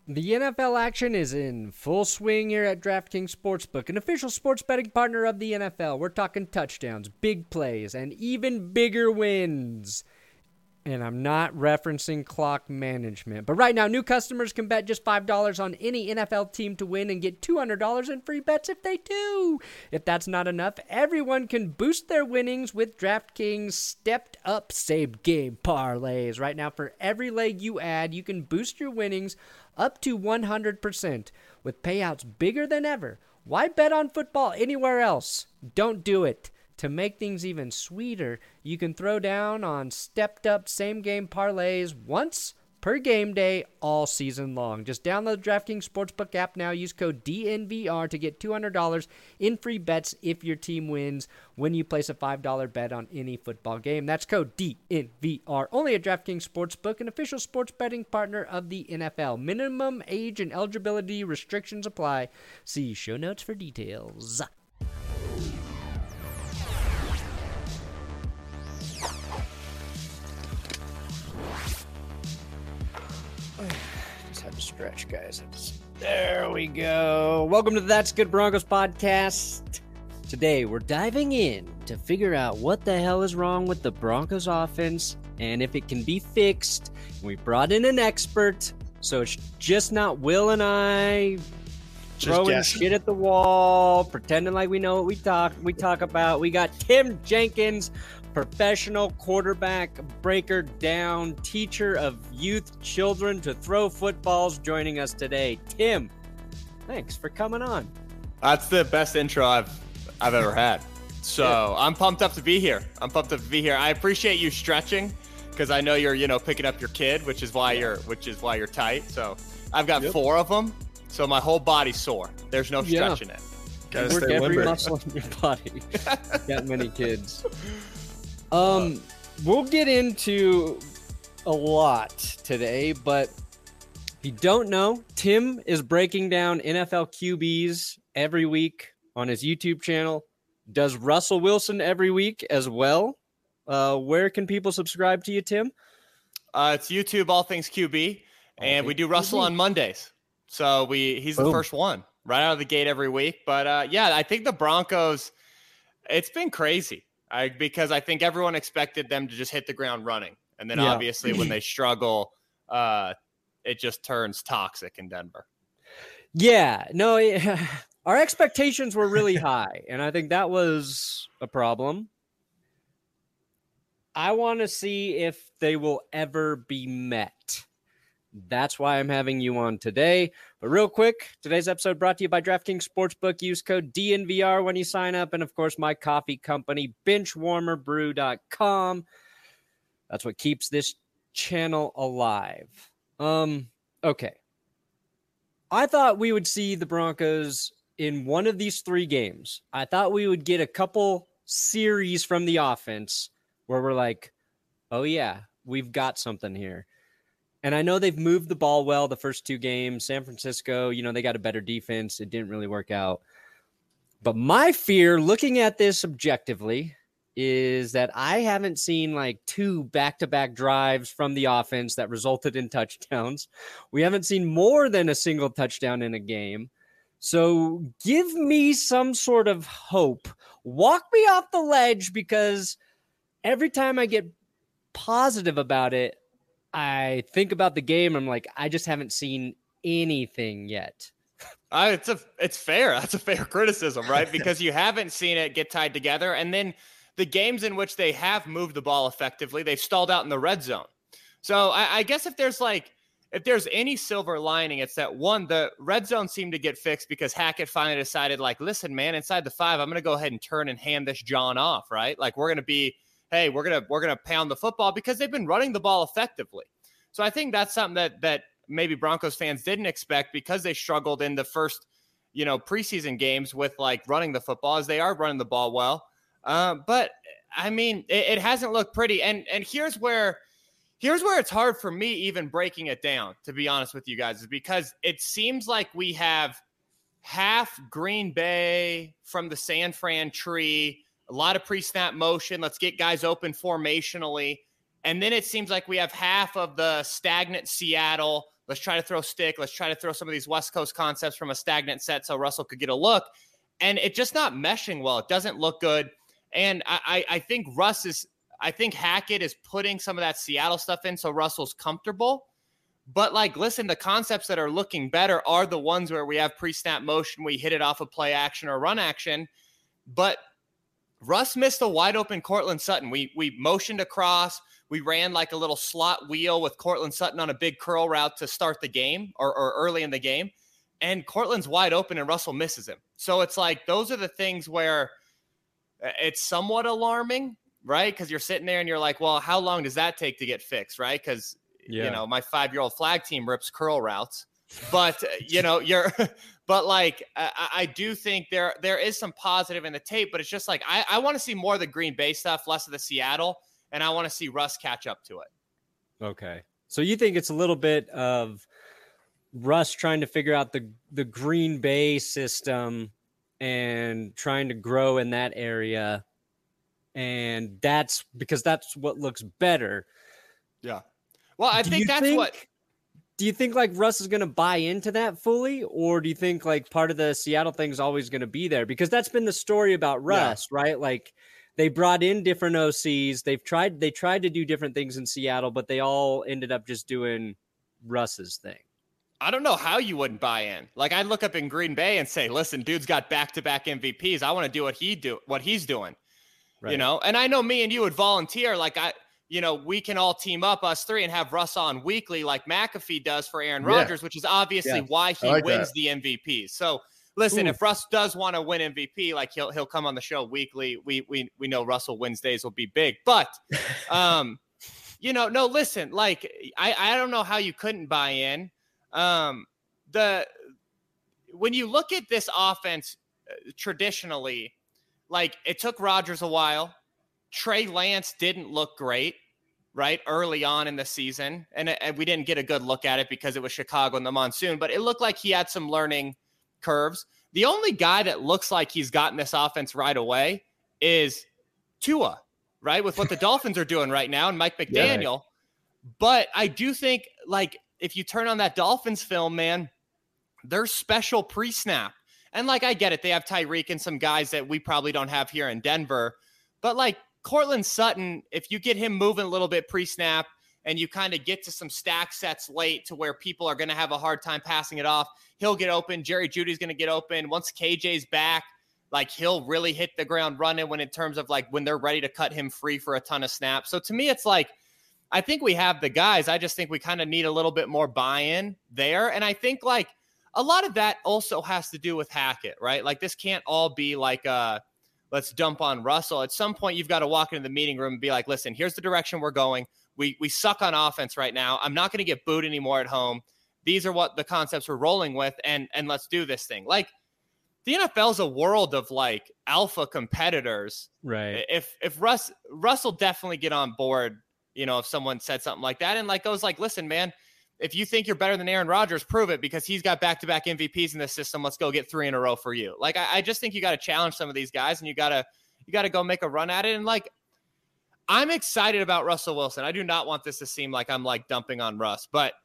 The NFL action is in full swing here at DraftKings Sportsbook, an official sports betting partner of the NFL. We're talking touchdowns, big plays, and even bigger wins. And I'm not referencing clock management. But right now, new customers can bet just $5 on any NFL team to win and get $200 in free bets if they do. If that's not enough, everyone can boost their winnings with DraftKings stepped-up same-game parlays. Right now, for every leg you add, you can boost your winnings up to 100% with payouts bigger than ever. Why bet on football anywhere else? Don't do it. To make things even sweeter, you can throw down on stepped-up same-game parlays once per game day all season long. Just download the DraftKings Sportsbook app now. Use code DNVR to get $200 in free bets if your team wins when you place a $5 bet on any football game. That's code DNVR. Only at DraftKings Sportsbook, an official sports betting partner of the NFL. Minimum age and eligibility restrictions apply. See show notes for details. Had to stretch, guys. There we go. Welcome to the That's Good Broncos podcast. Today, we're diving in to figure out what the hell is wrong with the Broncos offense and if it can be fixed. We brought in an expert, so it's just not Will and I throwing shit at the wall, pretending like we know what we talk about. We got Tim Jenkins, professional quarterback, breaker down, teacher of youth children to throw footballs, joining us today. Tim, thanks for coming on. That's the best intro I've ever had. So I'm pumped up to be here. I appreciate you stretching because I know you're picking up your kid, which is why you're tight. So I've got 4 of them, so my whole body's sore. There's no stretching it. Gotta work every muscle in your body. Got many kids. We'll get into a lot today, but if you don't know, Tim is breaking down NFL QBs every week on his YouTube channel, does Russell Wilson every week as well. Where can people subscribe to you, Tim? It's YouTube, All Things QB, and we do Russell on Mondays. So he's the first one right out of the gate every week. But I think the Broncos, it's been crazy. Because I think everyone expected them to just hit the ground running. And then obviously when they struggle, it just turns toxic in Denver. Yeah, no, our expectations were really high. And I think that was a problem. I want to see if they will ever be met. That's why I'm having you on today. But real quick, today's episode brought to you by DraftKings Sportsbook. Use code DNVR when you sign up. And, of course, my coffee company, benchwarmerbrew.com. That's what keeps this channel alive. Okay. I thought we would see the Broncos in one of these 3 games. I thought we would get a couple series from the offense where we're like, oh, yeah, we've got something here. And I know they've moved the ball well the first 2 games. San Francisco, they got a better defense. It didn't really work out. But my fear, looking at this objectively, is that I haven't seen like 2 back-to-back drives from the offense that resulted in touchdowns. We haven't seen more than a single touchdown in a game. So give me some sort of hope. Walk me off the ledge, because every time I get positive about it, I think about the game. I'm like, I just haven't seen anything yet. It's fair. That's a fair criticism, right? Because you haven't seen it get tied together. And then the games in which they have moved the ball effectively, they've stalled out in the red zone. So I guess if there's any silver lining, it's that, one, the red zone seemed to get fixed because Hackett finally decided, like, listen, man, inside the 5, I'm going to go ahead and turn and hand this John off, right? Like, we're going to be, hey, we're gonna pound the football, because they've been running the ball effectively. So I think that's something that maybe Broncos fans didn't expect, because they struggled in the first, preseason games with like running the football, as they are running the ball well. But I mean, it hasn't looked pretty. And here's where it's hard for me even breaking it down, to be honest with you guys, is because it seems like we have half Green Bay from the San Fran tree, a lot of pre-snap motion. Let's get guys open formationally. And then it seems like we have half of the stagnant Seattle. Let's try to throw stick. Let's try to throw some of these West Coast concepts from a stagnant set so Russell could get a look. And it's just not meshing well. It doesn't look good. And I think I think Hackett is putting some of that Seattle stuff in so Russell's comfortable. But like, listen, the concepts that are looking better are the ones where we have pre-snap motion, we hit it off of play action or run action. But Russ missed a wide open Cortland Sutton. We motioned across. We ran like a little slot wheel with Cortland Sutton on a big curl route to start the game or early in the game. And Cortland's wide open and Russell misses him. So it's like, those are the things where it's somewhat alarming, right? Because you're sitting there and you're like, well, how long does that take to get fixed, right? Because, you know, my 5-year-old flag team rips curl routes. But, but like, I do think there is some positive in the tape, but it's just like, I want to see more of the Green Bay stuff, less of the Seattle, and I want to see Russ catch up to it. Okay. So you think it's a little bit of Russ trying to figure out the Green Bay system and trying to grow in that area. And that's because that's what looks better. Yeah. Well, I think that's what. Do you think like Russ is going to buy into that fully, or do you think like part of the Seattle thing is always going to be there? Because that's been the story about Russ, right? Like they brought in different OCs. They tried to do different things in Seattle, but they all ended up just doing Russ's thing. I don't know how you wouldn't buy in. Like I'd look up in Green Bay and say, listen, dude's got back-to-back MVPs. I want to do what he's doing, right. You know? And I know me and you would volunteer. Like we can all team up, us three, and have Russ on weekly like McAfee does for Aaron Rodgers, which is obviously why he wins the MVP. So listen, if Russ does want to win MVP, like he'll come on the show weekly. We know Russell Wednesdays will be big, but no, listen, like I don't know how you couldn't buy in. When you look at this offense traditionally, like it took Rodgers a while. Trey Lance didn't look great, right, early on in the season. And we didn't get a good look at it because it was Chicago in the monsoon, but it looked like he had some learning curves. The only guy that looks like he's gotten this offense right away is Tua, right, with what the Dolphins are doing right now and Mike McDaniel. Yeah. But I do think, like, if you turn on that Dolphins film, man, they're special pre-snap. And, like, I get it. They have Tyreek and some guys that we probably don't have here in Denver. But, like, Cortland Sutton, if you get him moving a little bit pre-snap and you kind of get to some stack sets late to where people are going to have a hard time passing it off, he'll get open. Jerry Jeudy's going to get open. Once KJ's back, like he'll really hit the ground running when in terms of like when they're ready to cut him free for a ton of snaps. So to me, it's like, I think we have the guys. I just think we kind of need a little bit more buy-in there. And I think like a lot of that also has to do with Hackett, right? Like this can't all be like let's dump on Russell. At some point, you've got to walk into the meeting room and be like, listen, here's the direction we're going. We suck on offense right now. I'm not going to get booed anymore at home. These are what the concepts we're rolling with, and let's do this thing. Like, the NFL is a world of, like, alpha competitors. Right. If Russell definitely get on board, if someone said something like that and, like, goes like, listen, man, if you think you're better than Aaron Rodgers, prove it because he's got back-to-back MVPs in this system. Let's go get 3 in a row for you. Like, I just think you got to challenge some of these guys and you got to go make a run at it. And like, I'm excited about Russell Wilson. I do not want this to seem like I'm like dumping on Russ, but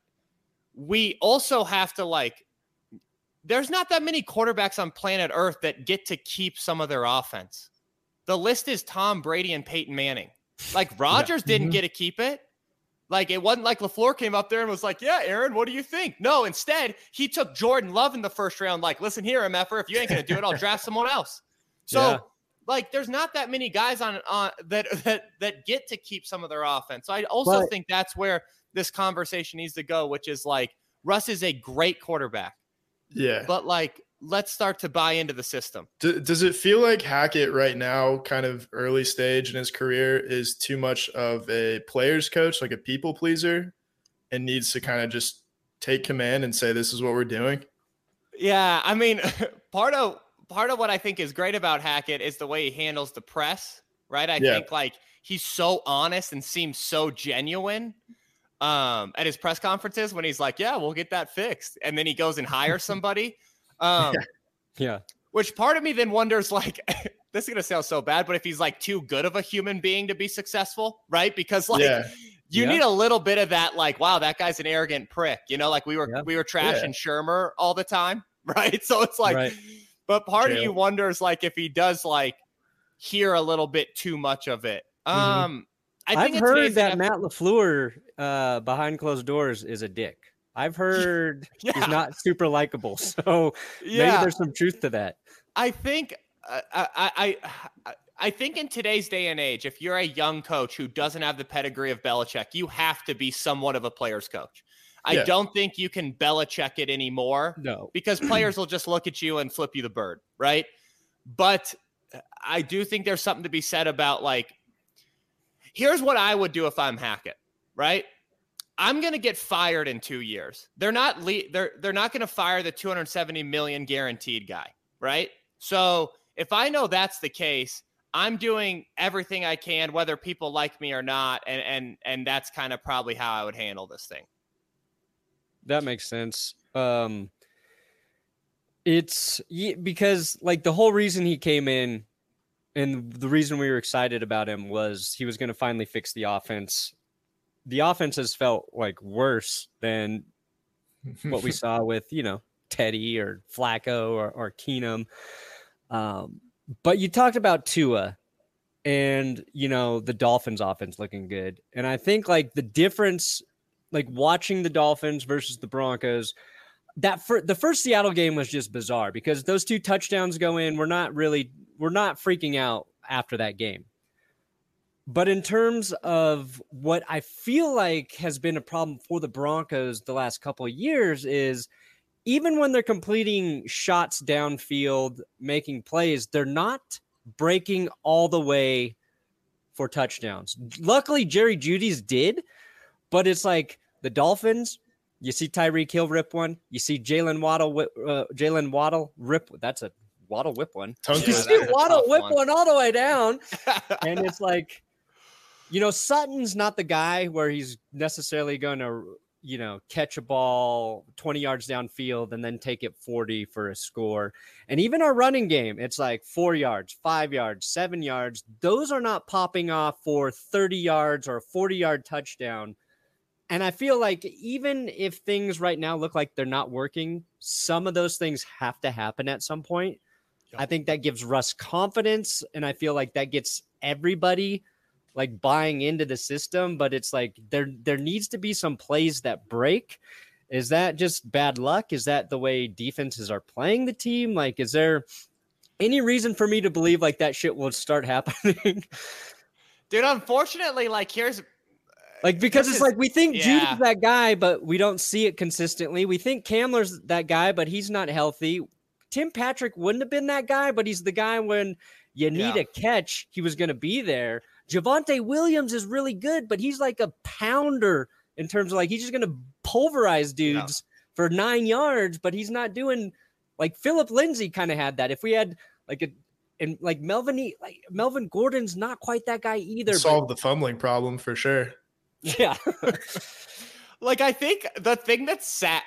we also have to like, there's not that many quarterbacks on planet Earth that get to keep some of their offense. The list is Tom Brady and Peyton Manning. Like Rodgers didn't get to keep it. Like, it wasn't like LaFleur came up there and was like, yeah, Aaron, what do you think? No, instead, he took Jordan Love in the first round. Like, listen here, MFer, if you ain't going to do it, I'll draft someone else. So, like, there's not that many guys on that get to keep some of their offense. So I also think that's where this conversation needs to go, which is, like, Russ is a great quarterback. Yeah. But, like, let's start to buy into the system. Does it feel like Hackett right now, kind of early stage in his career, is too much of a player's coach, like a people pleaser, and needs to kind of just take command and say, this is what we're doing? Yeah. I mean, part of what I think is great about Hackett is the way he handles the press, right? I think like he's so honest and seems so genuine at his press conferences when he's like, yeah, we'll get that fixed. And then he goes and hires somebody. Which part of me then wonders, like, this is going to sound so bad, but if he's like too good of a human being to be successful, right? Because like you need a little bit of that, like, wow, that guy's an arrogant prick, you know, like we were trashing Shermer all the time, right? So it's like, but part of you wonders like if he does like hear a little bit too much of it. I've heard that Matt LaFleur behind closed doors is a dick. I've heard he's not super likable, so maybe there's some truth to that. I think I think in today's day and age, if you're a young coach who doesn't have the pedigree of Belichick, you have to be somewhat of a player's coach. I don't think you can Belichick it anymore. No, because players will just look at you and flip you the bird, right? But I do think there's something to be said about like, here's what I would do if I'm Hackett, right? I'm going to get fired in 2 years. They're not going to fire the $270 million guaranteed guy, right? So if I know that's the case, I'm doing everything I can, whether people like me or not, and that's kind of probably how I would handle this thing. That makes sense. It's because like the whole reason he came in and the reason we were excited about him was he was going to finally fix the offense. The offense has felt like worse than what we saw with, you know, Teddy or Flacco or Keenum. But you talked about Tua and, you know, the Dolphins offense looking good. And I think like the difference, like watching the Dolphins versus the Broncos, the first Seattle game was just bizarre because those 2 touchdowns go in. We're not freaking out after that game. But in terms of what I feel like has been a problem for the Broncos the last couple of years is even when they're completing shots downfield, making plays, they're not breaking all the way for touchdowns. Luckily, Jerry Jeudy's did, but it's like the Dolphins, you see Tyreek Hill rip one. You see Jalen Waddle rip. That's a Waddle whip one. You see Waddle whip one all the way down. And it's like, you know, Sutton's not the guy where he's necessarily going to, you know, catch a ball 20 yards downfield and then take it 40 for a score. And even our running game, it's like 4 yards, 5 yards, 7 yards. Those are not popping off for 30 yards or a 40-yard touchdown. And I feel like even if things right now look like they're not working, some of those things have to happen at some point. Yep. I think that gives Russ confidence, and I feel like that gets everybody like buying into the system, but it's like there needs to be some plays that break. Is that just bad luck? Is that the way defenses are playing the team? Like, is there any reason for me to believe like that shit will start happening? Dude, unfortunately, like here's like, because it's like we think Judy's that guy, but we don't see it consistently. We think Kamler's that guy, but he's not healthy. Tim Patrick wouldn't have been that guy, but he's the guy when you need a catch, he was going to be there. Javonte Williams is really good, but he's like a pounder in terms of like he's just going to pulverize dudes for 9 yards, but he's not doing like Phillip Lindsay kind of had that. If we had like Melvin Gordon's not quite that guy either. Solve the fumbling problem for sure. Yeah. Like, I think the thing that's sad,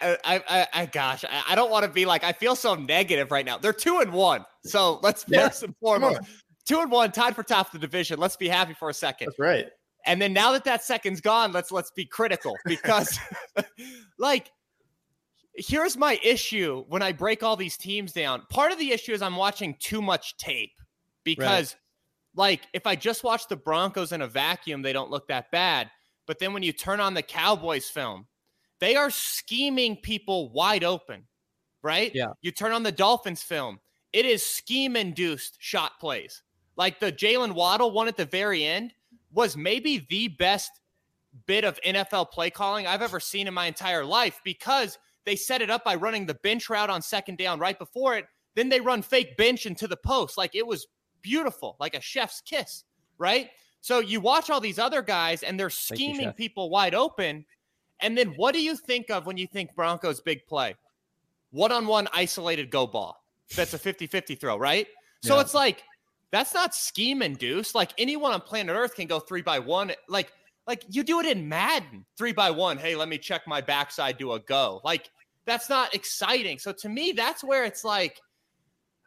I don't want to be like, I feel so negative right now. They're 2-1. So let's first and foremost, 2-1, tied for top of the division. Let's be happy for a second. That's right. And then now that second's gone, let's be critical because like, here's my issue when I break all these teams down. Part of the issue is I'm watching too much tape because like, if I just watch the Broncos in a vacuum, they don't look that bad. But then when you turn on the Cowboys film, they are scheming people wide open, right? Yeah. You turn on the Dolphins film, it is scheme-induced shot plays. Like the Jalen Waddle one at the very end was maybe the best bit of NFL play calling I've ever seen in my entire life because they set it up by running the bench route on second down right before it. Then they run fake bench into the post. Like it was beautiful, like a chef's kiss, right? So you watch all these other guys and they're scheming people wide open. And then what do you think of when you think Broncos big play? One-on-one isolated go ball. That's a 50-50 throw, right? So it's like, that's not scheme induced. Like anyone on planet Earth can go 3-by-1. Like you do it in Madden, 3-by-1. Hey, let me check my backside, do a go. Like that's not exciting. So to me, that's where it's like,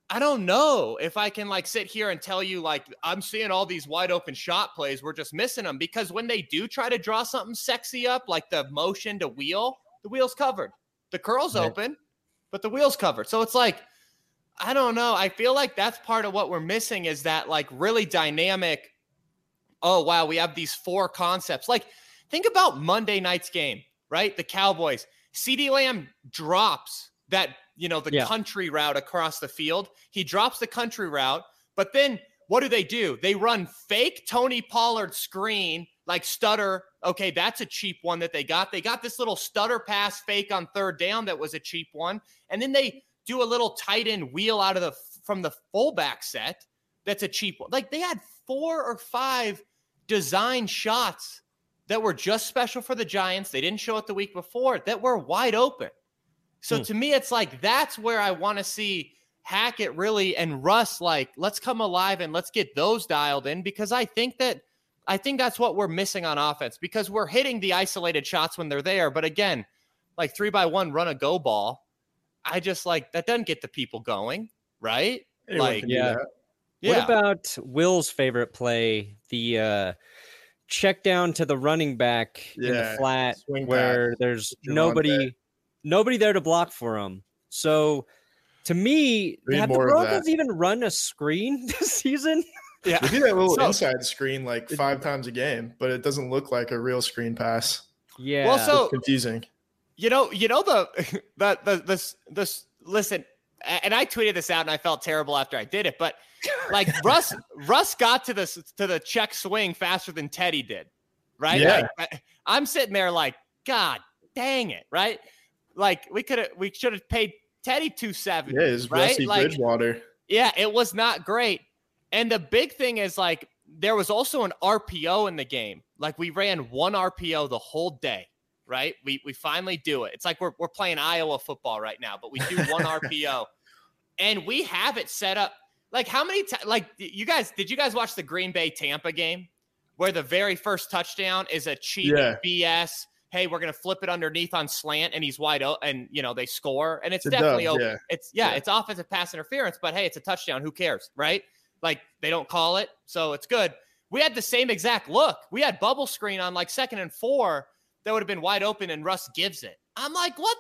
I don't know if I can like sit here and tell you like I'm seeing all these wide open shot plays. We're just missing them because when they do try to draw something sexy up, like the motion to wheel, the wheel's covered. The curl's open, but the wheel's covered. So it's like, I don't know. I feel like that's part of what we're missing is that like really dynamic. Oh, wow. We have these 4 concepts. Like think about Monday night's game, right? The Cowboys. CeeDee Lamb drops that, the country route across the field. He drops the country route, but then what do? They run fake Tony Pollard screen, like stutter. Okay, that's a cheap one that they got. They got this little stutter pass fake on 3rd down that was a cheap one. And then they do a little tight end wheel from the fullback set. That's a cheap one. Like they had 4 or 5 design shots that were just special for the Giants. They didn't show it the week before that were wide open. So to me, it's like, that's where I want to see Hackett really and Russ, like, let's come alive and let's get those dialed in because I think that's what we're missing on offense because we're hitting the isolated shots when they're there. But again, like 3-by-1 run a go ball. I just like that doesn't get the people going. Right. Anyone can do that. What about Will's favorite play? The check down to the running back in the flat where there's nobody there to block for him. So to me, have the Broncos even run a screen this season? Yeah. We do that little inside screen like 5 times a game, but it doesn't look like a real screen pass. Yeah. Well, so it's confusing. Listen, and I tweeted this out and I felt terrible after I did it, but like Russ got to the check swing faster than Teddy did. Right. Yeah. Like, I'm sitting there like, God dang it. Right. Like we should have paid Teddy $270. Yeah, it's right? Rusty Bridgewater. Yeah, it was not great. And the big thing is like there was also an RPO in the game. Like we ran 1 RPO the whole day, right? We finally do it. It's like we're playing Iowa football right now, but we do 1 RPO. And we have it set up. Like how many times did you guys watch the Green Bay Tampa game where the very first touchdown is a cheap BS? Hey, we're going to flip it underneath on slant and he's wide open and, they score. And it's definitely open. Yeah. It's offensive pass interference, but hey, it's a touchdown. Who cares? Right? Like they don't call it. So it's good. We had the same exact look. We had bubble screen on like 2nd and 4 that would have been wide open and Russ gives it. I'm like, what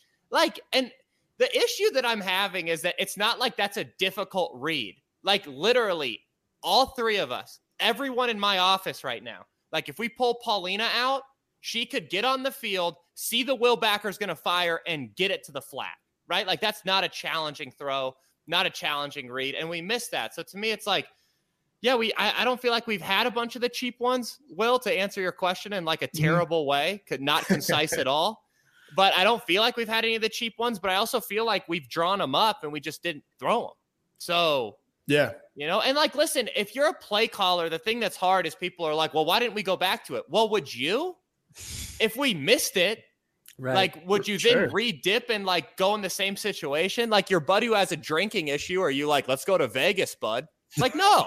and the issue that I'm having is that it's not like that's a difficult read. Like literally all 3 of us, everyone in my office right now, like if we pull Paulina out, she could get on the field, see the Will backer's going to fire, and get it to the flat, right? Like, that's not a challenging throw, not a challenging read, and we missed that. So, to me, it's like, yeah, I don't feel like we've had a bunch of the cheap ones, Will, to answer your question in, like, a terrible way, not concise at all. But I don't feel like we've had any of the cheap ones, but I also feel like we've drawn them up, and we just didn't throw them. So, yeah. And, like, listen, if you're a play caller, the thing that's hard is people are like, well, why didn't we go back to it? Well, would you? If we missed it, right. Like, would you then re-dip and like go in the same situation? Like your buddy who has a drinking issue, are you like, let's go to Vegas, bud? Like, no,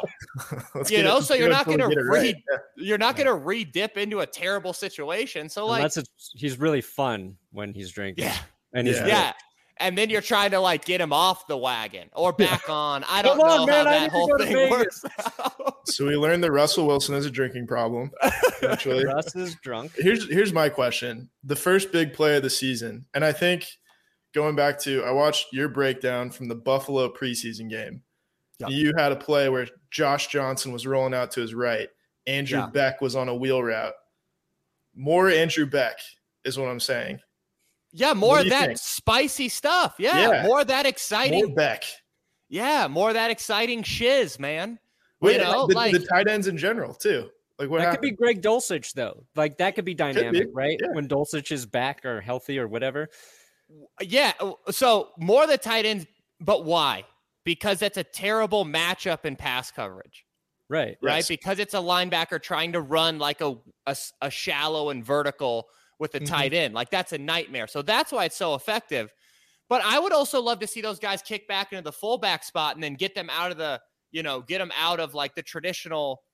so you're not going to you're not going to re-dip into a terrible situation. So like, he's really fun when he's drinking. Yeah. And he's and then you're trying to like get him off the wagon or back on. I don't know how that whole thing works. So we learned that Russell Wilson has a drinking problem. Actually, Russ is drunk. Here's my question: the first big play of the season, and I think going back to I watched your breakdown from the Buffalo preseason game. Yep. You had a play where Josh Johnson was rolling out to his right. Andrew Beck was on a wheel route. More Andrew Beck is what I'm saying. Yeah, more of that spicy stuff. Yeah, more of that exciting. More Beck. Yeah, more of that exciting shiz, man. Wait, the tight ends in general too. Like what could be Greg Dulcich though. Like that could be dynamic, right? Yeah. When Dulcich is back or healthy or whatever. Yeah. So more of the tight ends, but why? Because that's a terrible matchup in pass coverage. Right. Right. Yes. Because it's a linebacker trying to run like a shallow and vertical with a tight end. Like that's a nightmare. So that's why it's so effective. But I would also love to see those guys kick back into the fullback spot and then get them out of the, get them out of like the traditional,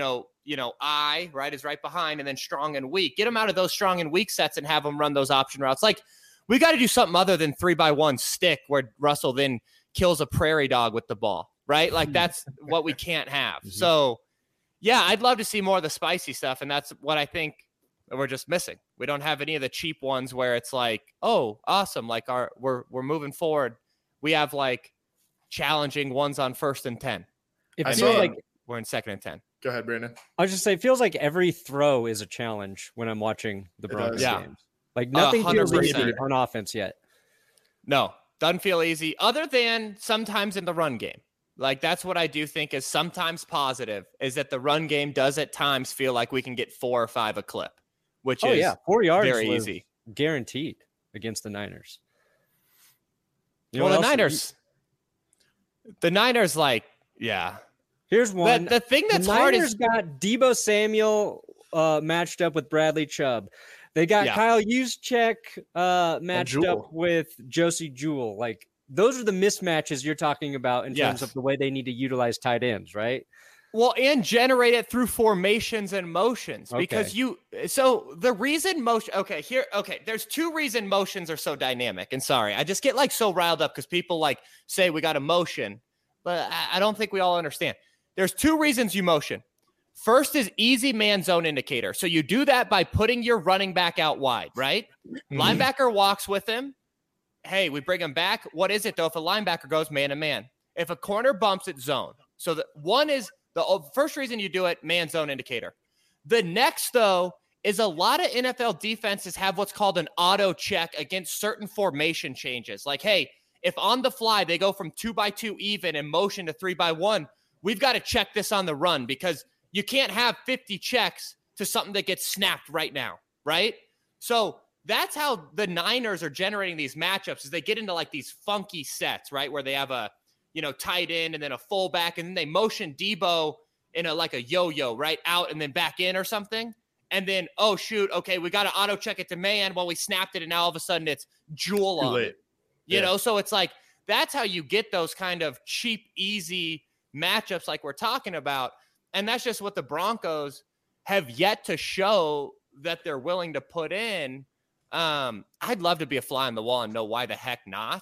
I, right, is right behind and then strong and weak. Get them out of those strong and weak sets and have them run those option routes. Like we got to do something other than 3-by-1 stick where Russell then kills a prairie dog with the ball, right? Like that's what we can't have. So yeah, I'd love to see more of the spicy stuff. And that's what I think we're just missing. We don't have any of the cheap ones where it's like, oh, awesome. Like we're moving forward. We have like challenging ones on 1st and 10. It feels like we're in 2nd and 10. Go ahead, Brandon. I was just say, it feels like every throw is a challenge when I'm watching the Broncos games. Like nothing feels easy on offense yet. No, doesn't feel easy other than sometimes in the run game. Like that's what I do think is sometimes positive is that the run game does at times feel like we can get 4 or 5 a clip, which is 4 yards very easy. Guaranteed against the Niners. Well, the Niners, like, yeah. Here's one. The thing that's the hard Niners is got Deebo Samuel matched up with Bradley Chubb. They got Kyle Juszczyk matched up with Josie Jewell. Like those are the mismatches you're talking about in terms of the way they need to utilize tight ends, right? Well, and generate it through formations and motions because so the reason there's 2 reasons motions are so dynamic. And sorry, I just get like so riled up because people like say we got a motion, but I don't think we all understand. There's 2 reasons you motion. First is easy man zone indicator. So you do that by putting your running back out wide, right? Mm-hmm. Linebacker walks with him. Hey, we bring him back. What is it though? If a linebacker goes man to man, if a corner bumps it zone. So the one is the first reason you do it, man zone indicator. The next though is a lot of NFL defenses have what's called an auto check against certain formation changes. Like, hey, if on the fly they go from 2x2 even and motion to 3x1, we've got to check this on the run because you can't have 50 checks to something that gets snapped right now, right? So that's how the Niners are generating these matchups is they get into like these funky sets, right? Where they have a, tight end and then a fullback and then they motion Deebo in like a yo-yo, right? Out and then back in or something. And then, oh, shoot, okay, we got to auto check it to man. Well, we snapped it and now all of a sudden it's Jewel on it. You know, so it's like that's how you get those kind of cheap, easy matchups like we're talking about. And that's just what the Broncos have yet to show that they're willing to put in. I'd love to be a fly on the wall and know why the heck not.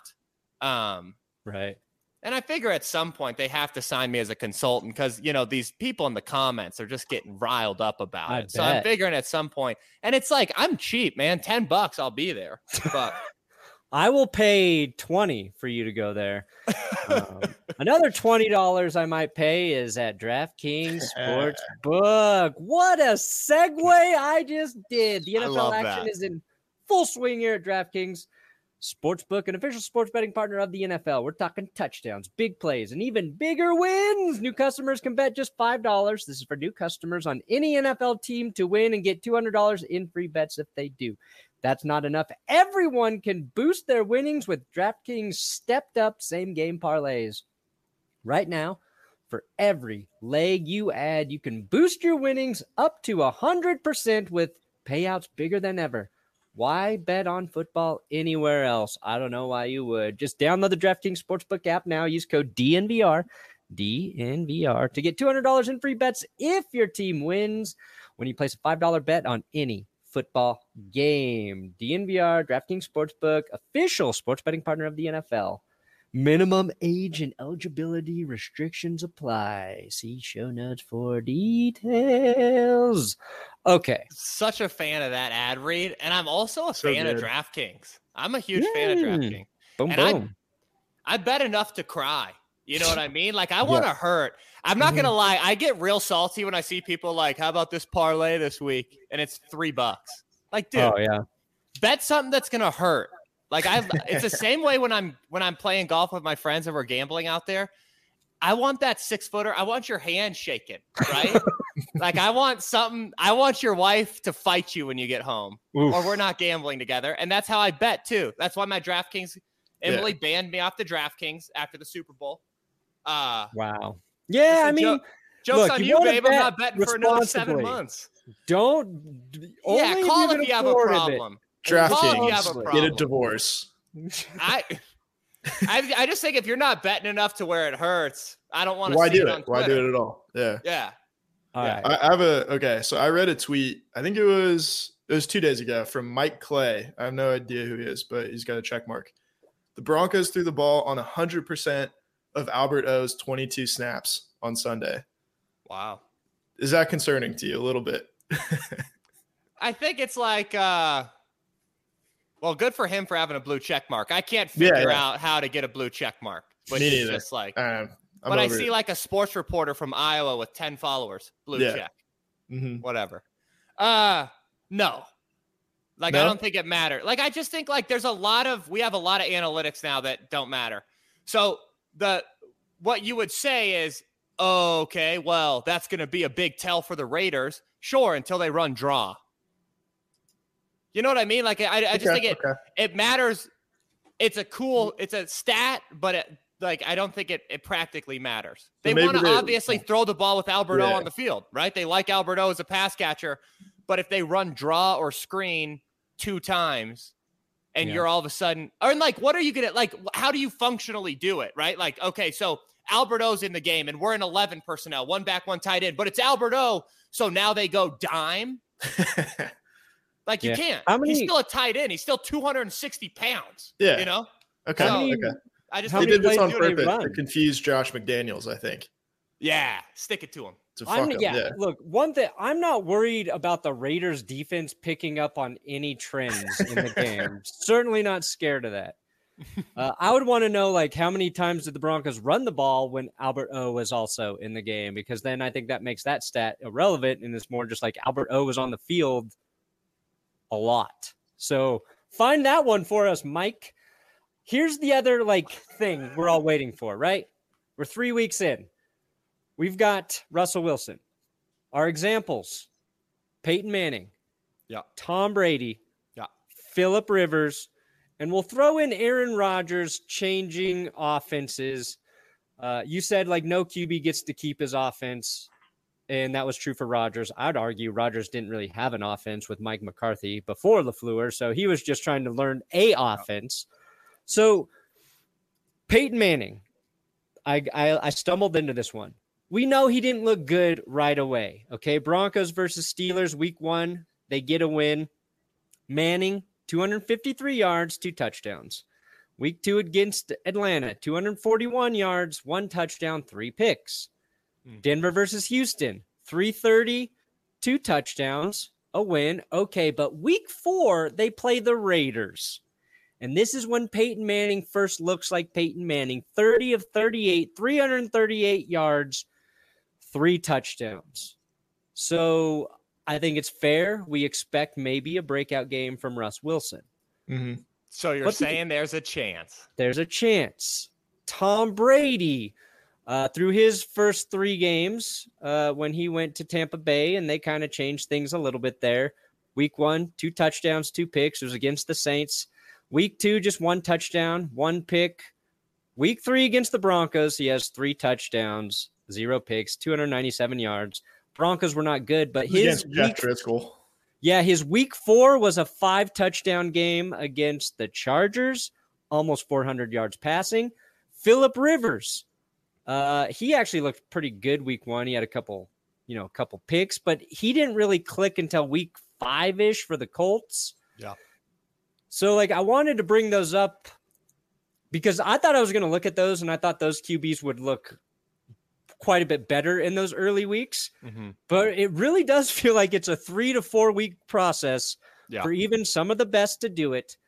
Right. And I figure at some point they have to sign me as a consultant because, these people in the comments are just getting riled up about it. So I'm figuring at some point, and it's like, I'm cheap, man, $10, I'll be there. But I will pay $20 for you to go there. Another $20 I might pay is at DraftKings Sportsbook. What a segue I just did. The NFL action is in full swing here at DraftKings Sportsbook, an official sports betting partner of the NFL. We're talking touchdowns, big plays, and even bigger wins. New customers can bet just $5. This is for new customers on any NFL team to win and get $200 in free bets if they do. That's not enough. Everyone can boost their winnings with DraftKings stepped up same game parlays. Right now, for every leg you add, you can boost your winnings up to 100% with payouts bigger than ever. Why bet on football anywhere else? I don't know why you would. Just download the DraftKings Sportsbook app now. Use code DNVR to get $200 in free bets if your team wins when you place a $5 bet on any football game. DNVR, DraftKings Sportsbook, official sports betting partner of the NFL. Minimum age and eligibility restrictions apply. See show notes for details. Okay. Such a fan of that ad read. And I'm also a fan of DraftKings. I'm a huge fan of DraftKings. Boom, boom. I bet enough to cry. You know what I mean? Like, I want to hurt. I'm not going to lie. I get real salty when I see people like, how about this parlay this week? And it's $3. Like, dude, bet something that's going to hurt. Like it's the same way when I'm playing golf with my friends and we're gambling out there. I want that 6-footer. I want your hand shaking, right? Like I want your wife to fight you when you get home. Oof. Or we're not gambling together. And that's how I bet too. That's why my DraftKings, Emily banned me off the DraftKings after the Super Bowl. Wow. Yeah, I mean, joke's on you, babe. I'm not betting for another 7 months. Don't. Call if you have a problem. DraftKings, get a divorce. I just think if you're not betting enough to where it hurts, I don't want to see it on Twitter. Why do it at all? Yeah. Yeah. All right. I have so I read a tweet, I think it was 2 days ago from Mike Clay. I have no idea who he is, but he's got a check mark. The Broncos threw the ball on 100% of Albert O's 22 snaps on Sunday. Wow. Is that concerning to you a little bit? I think it's like, well, good for him for having a blue check mark. I can't figure out how to get a blue check mark. But Me it's neither. just like, but I see like a sports reporter from Iowa with 10 followers, blue check, whatever. No. Like, no? I don't think it matters. Like, I just think like we have a lot of analytics now that don't matter. So what you would say is, oh, okay, well, that's going to be a big tell for the Raiders. Sure, until they run draw. You know what I mean? Like, I just think it matters. It's a stat, but I don't think it practically matters. They want to obviously throw the ball with Albert O on the field, right? They like Albert O as a pass catcher, but if they run draw or screen 2 times and you're all of a sudden, or like, what are you going to, like, how do you functionally do it, right? Like, okay, so Albert O's in the game and we're in 11 personnel, 1 back, 1 tight end, but it's Albert O. So now they go dime. Like, you can't. He's still a tight end. He's still 260 pounds. Yeah. You know? Okay. I just they did this on purpose to confuse Josh McDaniels, I think. Yeah. Stick it to him. Look, one thing, I'm not worried about the Raiders defense picking up on any trends in the game. Certainly not scared of that. I would want to know, like, how many times did the Broncos run the ball when Albert O was also in the game? Because then I think that makes that stat irrelevant, and it's more just like Albert O was on the field a lot. So find that one for us, Mike. Here's the other thing we're all waiting for, right? We're 3 weeks in. We've got Russell Wilson. Our examples: Peyton Manning, Tom Brady, Phillip Rivers, and we'll throw in Aaron Rodgers changing offenses. You said no QB gets to keep his offense. And that was true for Rodgers. I'd argue Rodgers didn't really have an offense with Mike McCarthy before LaFleur, so he was just trying to learn a offense. So Peyton Manning, I stumbled into this one. We know he didn't look good right away. Okay, Broncos versus Steelers, week 1, they get a win. Manning, 253 yards, 2 touchdowns. Week 2 against Atlanta, 241 yards, 1 touchdown, 3 picks. Denver versus Houston, 330, 2 touchdowns, a win. Okay, but week 4, they play the Raiders. And this is when Peyton Manning first looks like Peyton Manning. 30 of 38, 338 yards, 3 touchdowns. So I think it's fair. We expect maybe a breakout game from Russ Wilson. Mm-hmm. So you're saying there's a chance. There's a chance. Tom Brady, through his first 3 games, when he went to Tampa Bay, and they kind of changed things a little bit there. Week 1, 2 touchdowns, 2 picks. It was against the Saints. Week 2, just 1 touchdown, 1 pick. Week 3 against the Broncos, he has 3 touchdowns, 0 picks, 297 yards. Broncos were not good, but his Jeff Driscoll. Yeah, his week 4 was a 5-touchdown game against the Chargers, almost 400 yards passing. Phillip Rivers, he actually looked pretty good week 1. He had a couple picks, but he didn't really click until week 5-ish for the Colts. Yeah. So I wanted to bring those up because I thought I was going to look at those, and I thought those QBs would look quite a bit better in those early weeks. Mm-hmm. But it really does feel like it's a 3 to 4 week process for even some of the best to do it.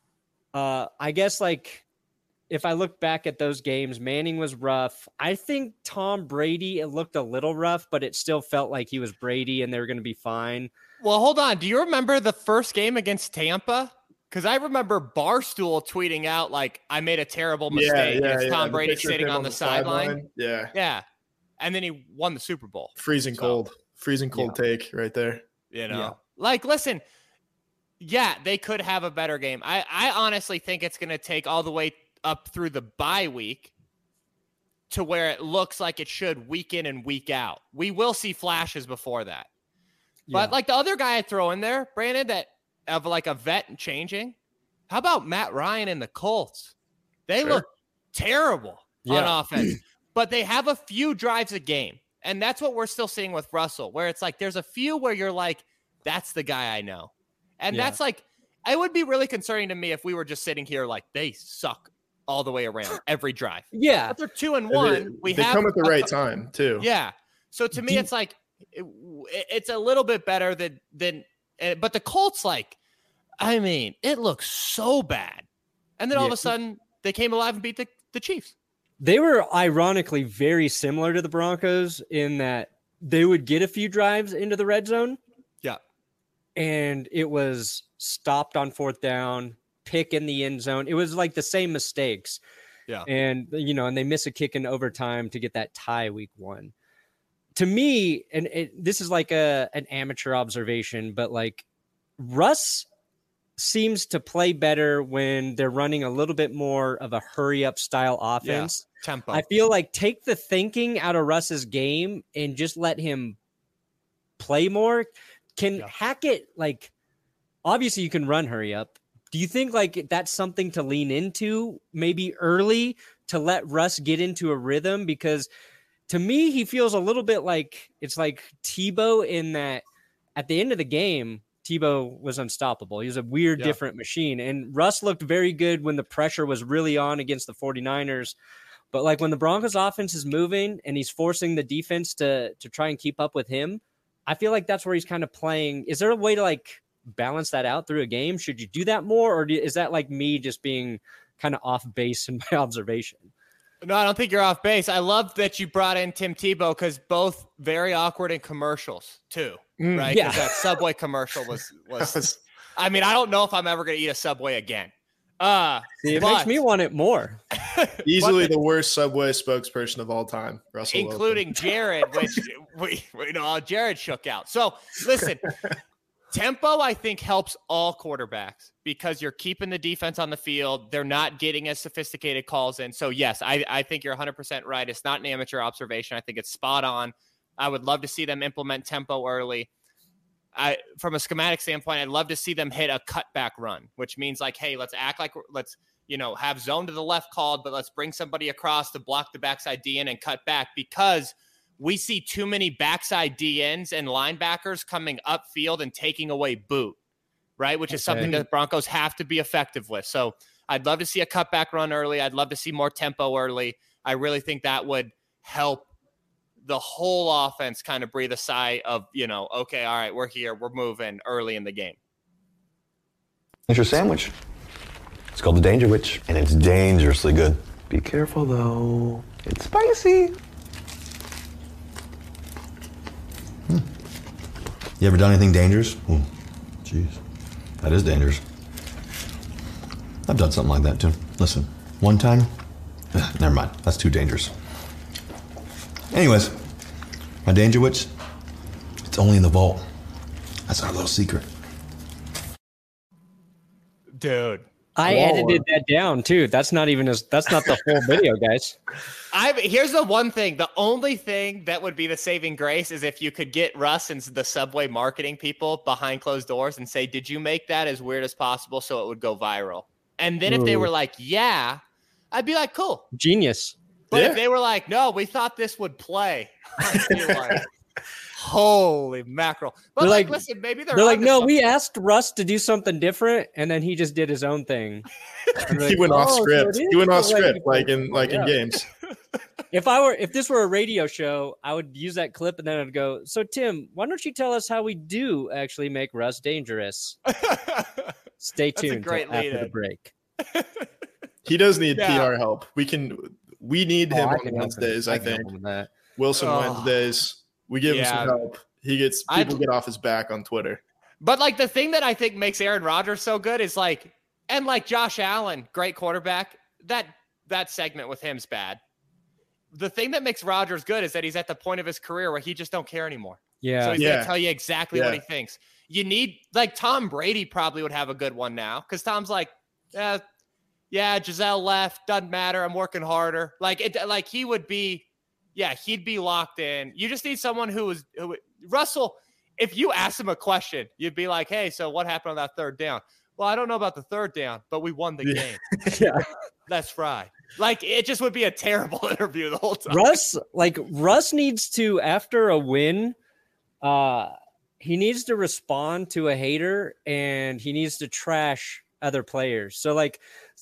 I guess if I look back at those games, Manning was rough. I think Tom Brady, it looked a little rough, but it still felt like he was Brady and they were going to be fine. Well, hold on. Do you remember the first game against Tampa? Because I remember Barstool tweeting out, I made a terrible mistake. It's Tom Brady sitting on the sideline. Yeah. Yeah. And then he won the Super Bowl. Freezing cold take right there. Listen, they could have a better game. I honestly think it's going to take all the way up through the bye week to where it looks like it should week in and week out. We will see flashes before that. But the other guy I throw in there, Brandon, that of a vet and changing. How about Matt Ryan and the Colts? They look terrible on offense, but they have a few drives a game. And that's what we're still seeing with Russell, where it's there's a few where you're that's the guy I know. And that's it would be really concerning to me if we were just sitting here they suck all the way around every drive. Yeah. But they're 2-1. They come at the right time too. Yeah. So to me, it's like it's a little bit better than. But the Colts, like, I mean, it looks so bad, and then all of a sudden they came alive and beat the Chiefs. They were ironically very similar to the Broncos in that they would get a few drives into the red zone. Yeah. And it was stopped on fourth down, pick in the end zone. It was like the same mistakes. Yeah. And, and they miss a kick in overtime to get that tie week 1. To me, and this is like an amateur observation, but like Russ seems to play better when they're running a little bit more of a hurry up style offense. Yeah, tempo. I feel like take the thinking out of Russ's game and just let him play more. Can Hackett, like, obviously you can run hurry up. Do you think like that's something to lean into maybe early to let Russ get into a rhythm? Because to me, he feels a little bit like it's like Tebow in that at the end of the game, Tebow was unstoppable. He was a weird, different machine. And Russ looked very good when the pressure was really on against the 49ers. But like when the Broncos offense is moving and he's forcing the defense to try and keep up with him, I feel like that's where he's kind of playing. Is there a way to like balance that out through a game? Should you do that more? Or is that like me just being kind of off base in my observation? No, I don't think you're off base. I love that you brought in Tim Tebow because both very awkward in commercials too, right? Yeah. That Subway commercial was. I mean, I don't know if I'm ever going to eat a Subway again. It makes me want it more. Easily the worst Subway spokesperson of all time, Russell including Wilson. Jared, which we know Jared shook out. So listen, tempo I think helps all quarterbacks because you're keeping the defense on the field. They're not getting as sophisticated calls in. So yes, I think you're 100% right. It's not an amateur observation. I think it's spot on. I would love to see them implement tempo early. From a schematic standpoint, I'd love to see them hit a cutback run, which means like, hey, let's act like let's have zone to the left called, but let's bring somebody across to block the backside DN and cut back because we see too many backside DNs and linebackers coming upfield and taking away boot, right? Which is something that the Broncos have to be effective with. So I'd love to see a cutback run early. I'd love to see more tempo early. I really think that would help the whole offense kind of breathe a sigh of, okay, all right, we're here, we're moving early in the game. It's your sandwich. It's called the Danger Witch, and it's dangerously good. Be careful, though. It's spicy. You ever done anything dangerous? Jeez, that is dangerous. I've done something like that, too. Listen, one time, never mind, that's too dangerous. Anyways, my Danger Witch, it's only in the vault. That's our little secret. Dude. I edited that down too. That's not the whole video, guys. Here's the one thing. The only thing that would be the saving grace is if you could get Russ and the Subway marketing people behind closed doors and say, did you make that as weird as possible so it would go viral? And then if they were like, yeah, I'd be like, cool. Genius. But if they were like, no, we thought this would play, I'd be like, holy mackerel. But they're like, listen, maybe they're like, no, we asked Russ to do something different, and then he just did his own thing. He went off script. He went off script, like in games. If this were a radio show, I would use that clip, and then I'd go, so Tim, why don't you tell us how we do actually make Russ dangerous? Stay tuned after the break. He does need PR help. We need him on Wednesdays, I think. Wilson Wednesdays. We give him some help. People get off his back on Twitter. But like the thing that I think makes Aaron Rodgers so good is like Josh Allen, great quarterback. That segment with him's bad. The thing that makes Rodgers good is that he's at the point of his career where he just don't care anymore. Yeah. So he's going to tell you exactly what he thinks. You need like Tom Brady probably would have a good one now because Tom's like, Giselle left, doesn't matter. I'm working harder. He would be, he'd be locked in. You just need someone who Russell. If you ask him a question, you'd be like, hey, so what happened on that third down? Well, I don't know about the third down, but we won the game. That's right. Like it just would be a terrible interview the whole time. Russ needs to, after a win, he needs to respond to a hater and he needs to trash other players. So like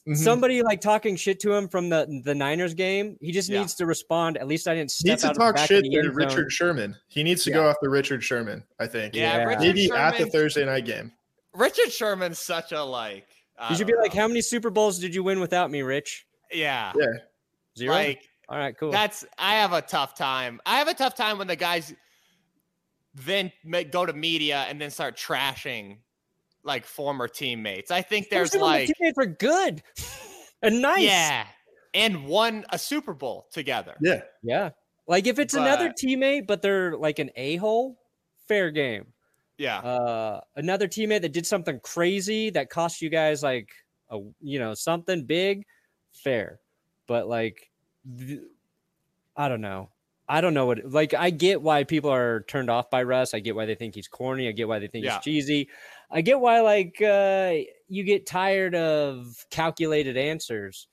somebody like talking shit to him from the Niners game, he just needs to respond. At least I didn't step Needs to out of the talk back shit of the end to Richard zone. Sherman. He needs to go after Richard Sherman, I think. Yeah, Richard maybe at the Sherman- Thursday night game. Richard Sherman's such a like. You should be like, how many Super Bowls did you win without me, Rich? Yeah. Yeah. 0? Like, all right, cool. I have a tough time. I have a tough time when the guys then go to media and then start trashing like former teammates. I think there's like teammates are good and nice. Yeah. And won a Super Bowl together. Yeah. Yeah. Like if it's another teammate, but they're like an a-hole, fair game. Yeah. Another teammate that did something crazy that cost you guys like something big, fair. But like, I don't know what, like, I get why people are turned off by Russ. I get why they think he's corny. I get why they think he's cheesy. I get why, like, you get tired of calculated answers.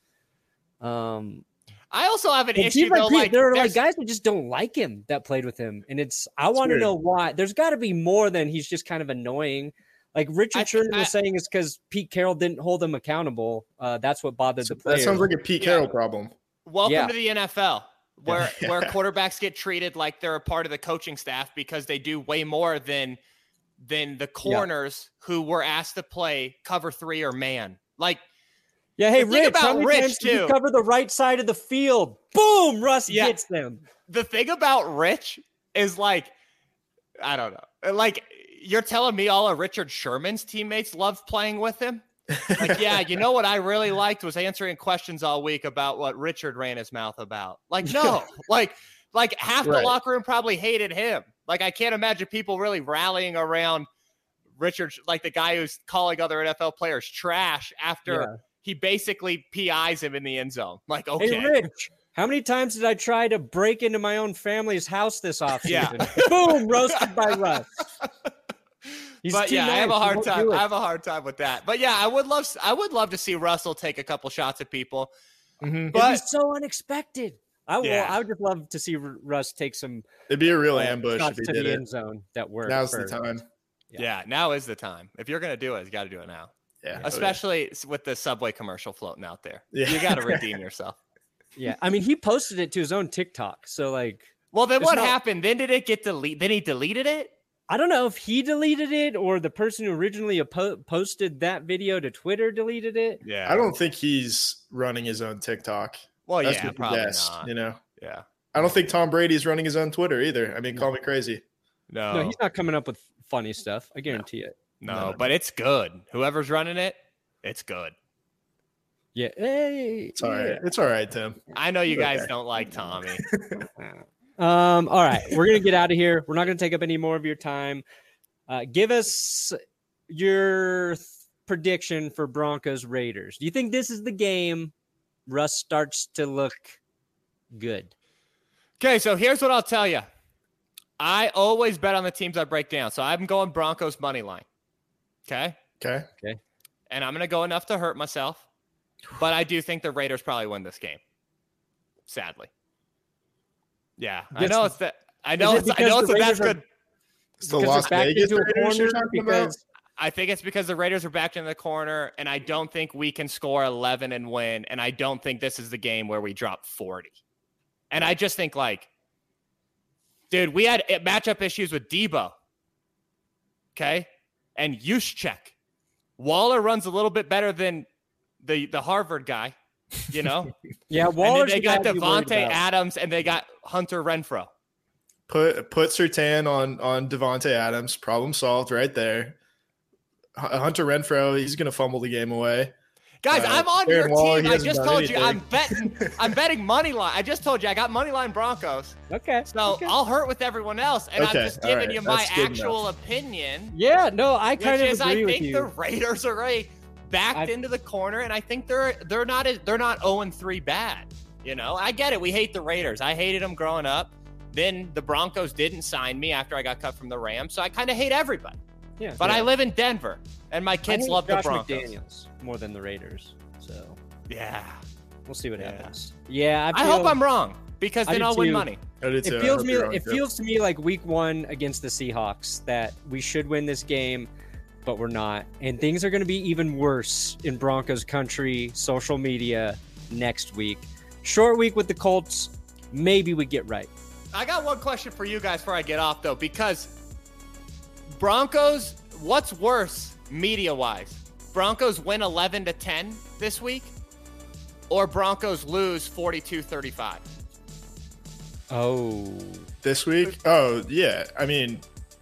I also have an issue though. Like there are like guys that just don't like him that played with him, and I want to know why. There's got to be more than he's just kind of annoying. Like Richard Sherman was saying, is because Pete Carroll didn't hold him accountable. That's what bothered the players. That sounds like a Pete Carroll problem. Welcome to the NFL, where quarterbacks get treated like they're a part of the coaching staff because they do way more than the corners who were asked to play cover 3 or man. Like. Yeah, hey, Rich, how many times did you cover the right side of the field? Boom, Russ gets them. The thing about Rich is like, I don't know. Like, you're telling me all of Richard Sherman's teammates loved playing with him? Like, yeah, you know what I really liked was answering questions all week about what Richard ran his mouth about. Like, no, like half the locker room probably hated him. Like, I can't imagine people really rallying around Richard, like the guy who's calling other NFL players trash after he basically PIs him in the end zone. Like, okay. Hey, Rich, how many times did I try to break into my own family's house this offseason? Yeah. Boom, roasted by Russ. But yeah, I have a hard time. I have a hard time with that. But yeah, I would love to see Russell take a couple shots at people. Mm-hmm. But it's so unexpected. I would just love to see Russ take some. It'd be a real ambush if he did the it. End zone that worked. Now's the time. Yeah, now is the time. If you're gonna do it, you got to do it now. Yeah, especially with the Subway commercial floating out there. Yeah. You got to redeem yourself. Yeah, I mean, he posted it to his own TikTok. So like, well, then what happened? Then did it get deleted? Then he deleted it. I don't know if he deleted it or the person who originally posted that video to Twitter deleted it. Yeah, I don't think he's running his own TikTok. Well, that's probably not. You know. Yeah. I don't think Tom Brady's running his own Twitter either. I mean, call me crazy. No, he's not coming up with funny stuff. I guarantee it. No, but it's good. Whoever's running it, it's good. Yeah. Hey. It's all right. It's all right, Tim. I know you guys don't like Tommy. All right. We're going to get out of here. We're not going to take up any more of your time. Give us your prediction for Broncos Raiders. Do you think this is the game Russ starts to look good? Okay, so here's what I'll tell you. I always bet on the teams I break down. So I'm going Broncos money line. Okay. And I'm going to go enough to hurt myself. But I do think the Raiders probably win this game. Sadly. Yeah. I know it's that. I know it's that's good. It's the Las Vegas Raiders you're talking about? I think it's because the Raiders are backed in the corner, and I don't think we can score 11 and win. And I don't think this is the game where we drop 40. And I just think, like, dude, we had matchup issues with Debo. Okay? And Juszczyk. Waller runs a little bit better than the Harvard guy, you know? Yeah, Waller's they got Devontae Adams, and they got Hunter Renfrow. Put Surtain on Devontae Adams. Problem solved right there. Hunter Renfrow, he's going to fumble the game away. Guys, I'm on your team. I just told you I'm betting money line. I just told you I got money line Broncos. Okay. So I'll hurt with everyone else, and I'm just giving you my actual opinion. Yeah, no, I kind of agree with you. I think the Raiders are already backed into the corner, and I think they're not 0-3 bad. You know, I get it. We hate the Raiders. I hated them growing up. Then the Broncos didn't sign me after I got cut from the Rams, so I kind of hate everybody. Yeah, but I live in Denver, and my kids love the Broncos. McDaniels more than the Raiders, so yeah, we'll see what happens. Yeah, I hope I'm wrong because then I'll win money. It feels to me like Week 1 against the Seahawks that we should win this game. but we're not. And things are going to be even worse in Broncos country, social media next week. Short week with the Colts. Maybe we get right. I got one question for you guys before I get off, though, because Broncos, what's worse media-wise? Broncos win 11-10 this week, or Broncos lose 42-35? Oh. This week? Oh, yeah. I mean,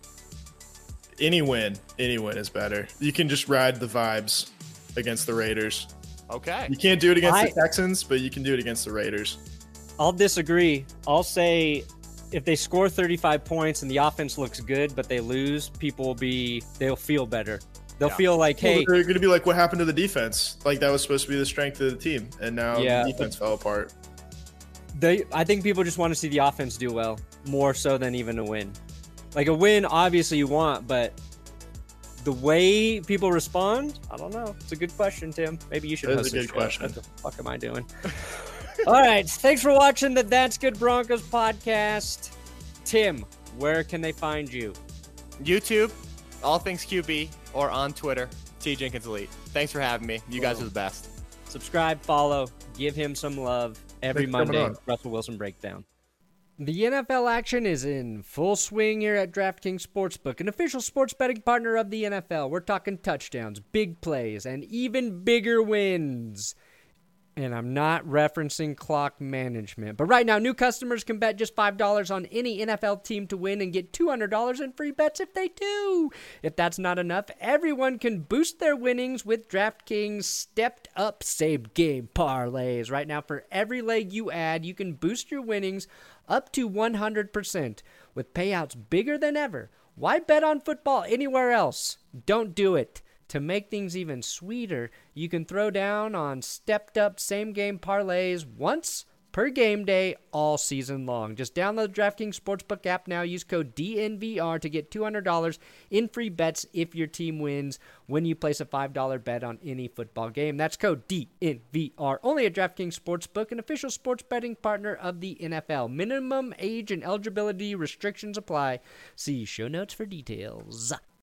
any win is better. You can just ride the vibes against the Raiders. Okay. You can't do it against the Texans, but you can do it against the Raiders. I'll disagree. I'll say if they score 35 points and the offense looks good, but they lose, they'll feel better. They'll feel like, hey. They're going to be like, what happened to the defense? Like, that was supposed to be the strength of the team, and now the defense fell apart. I think people just want to see the offense do well, more so than even a win. Like, a win, obviously you want, but the way people respond, I don't know. It's a good question, Tim. Maybe you should host That's a good question. What the fuck am I doing? All right. Thanks for watching the That's Good Broncos podcast. Tim, where can they find you? YouTube, All Things QB, or on Twitter, T Jenkins Elite. Thanks for having me. You guys are the best. Subscribe, follow, give him some love every Monday. Russell Wilson Breakdown. The NFL action is in full swing here at DraftKings Sportsbook, an official sports betting partner of the NFL. We're talking touchdowns, big plays, and even bigger wins. And I'm not referencing clock management. But right now, new customers can bet just $5 on any NFL team to win and get $200 in free bets if they do. If that's not enough, everyone can boost their winnings with DraftKings stepped-up same-game parlays. Right now, for every leg you add, you can boost your winnings up to 100% with payouts bigger than ever. Why bet on football anywhere else? Don't do it. To make things even sweeter, you can throw down on stepped-up same-game parlays once per game day all season long. Just download the DraftKings Sportsbook app now. Use code DNVR to get $200 in free bets if your team wins when you place a $5 bet on any football game. That's code DNVR. Only at DraftKings Sportsbook, an official sports betting partner of the NFL. Minimum age and eligibility restrictions apply. See show notes for details.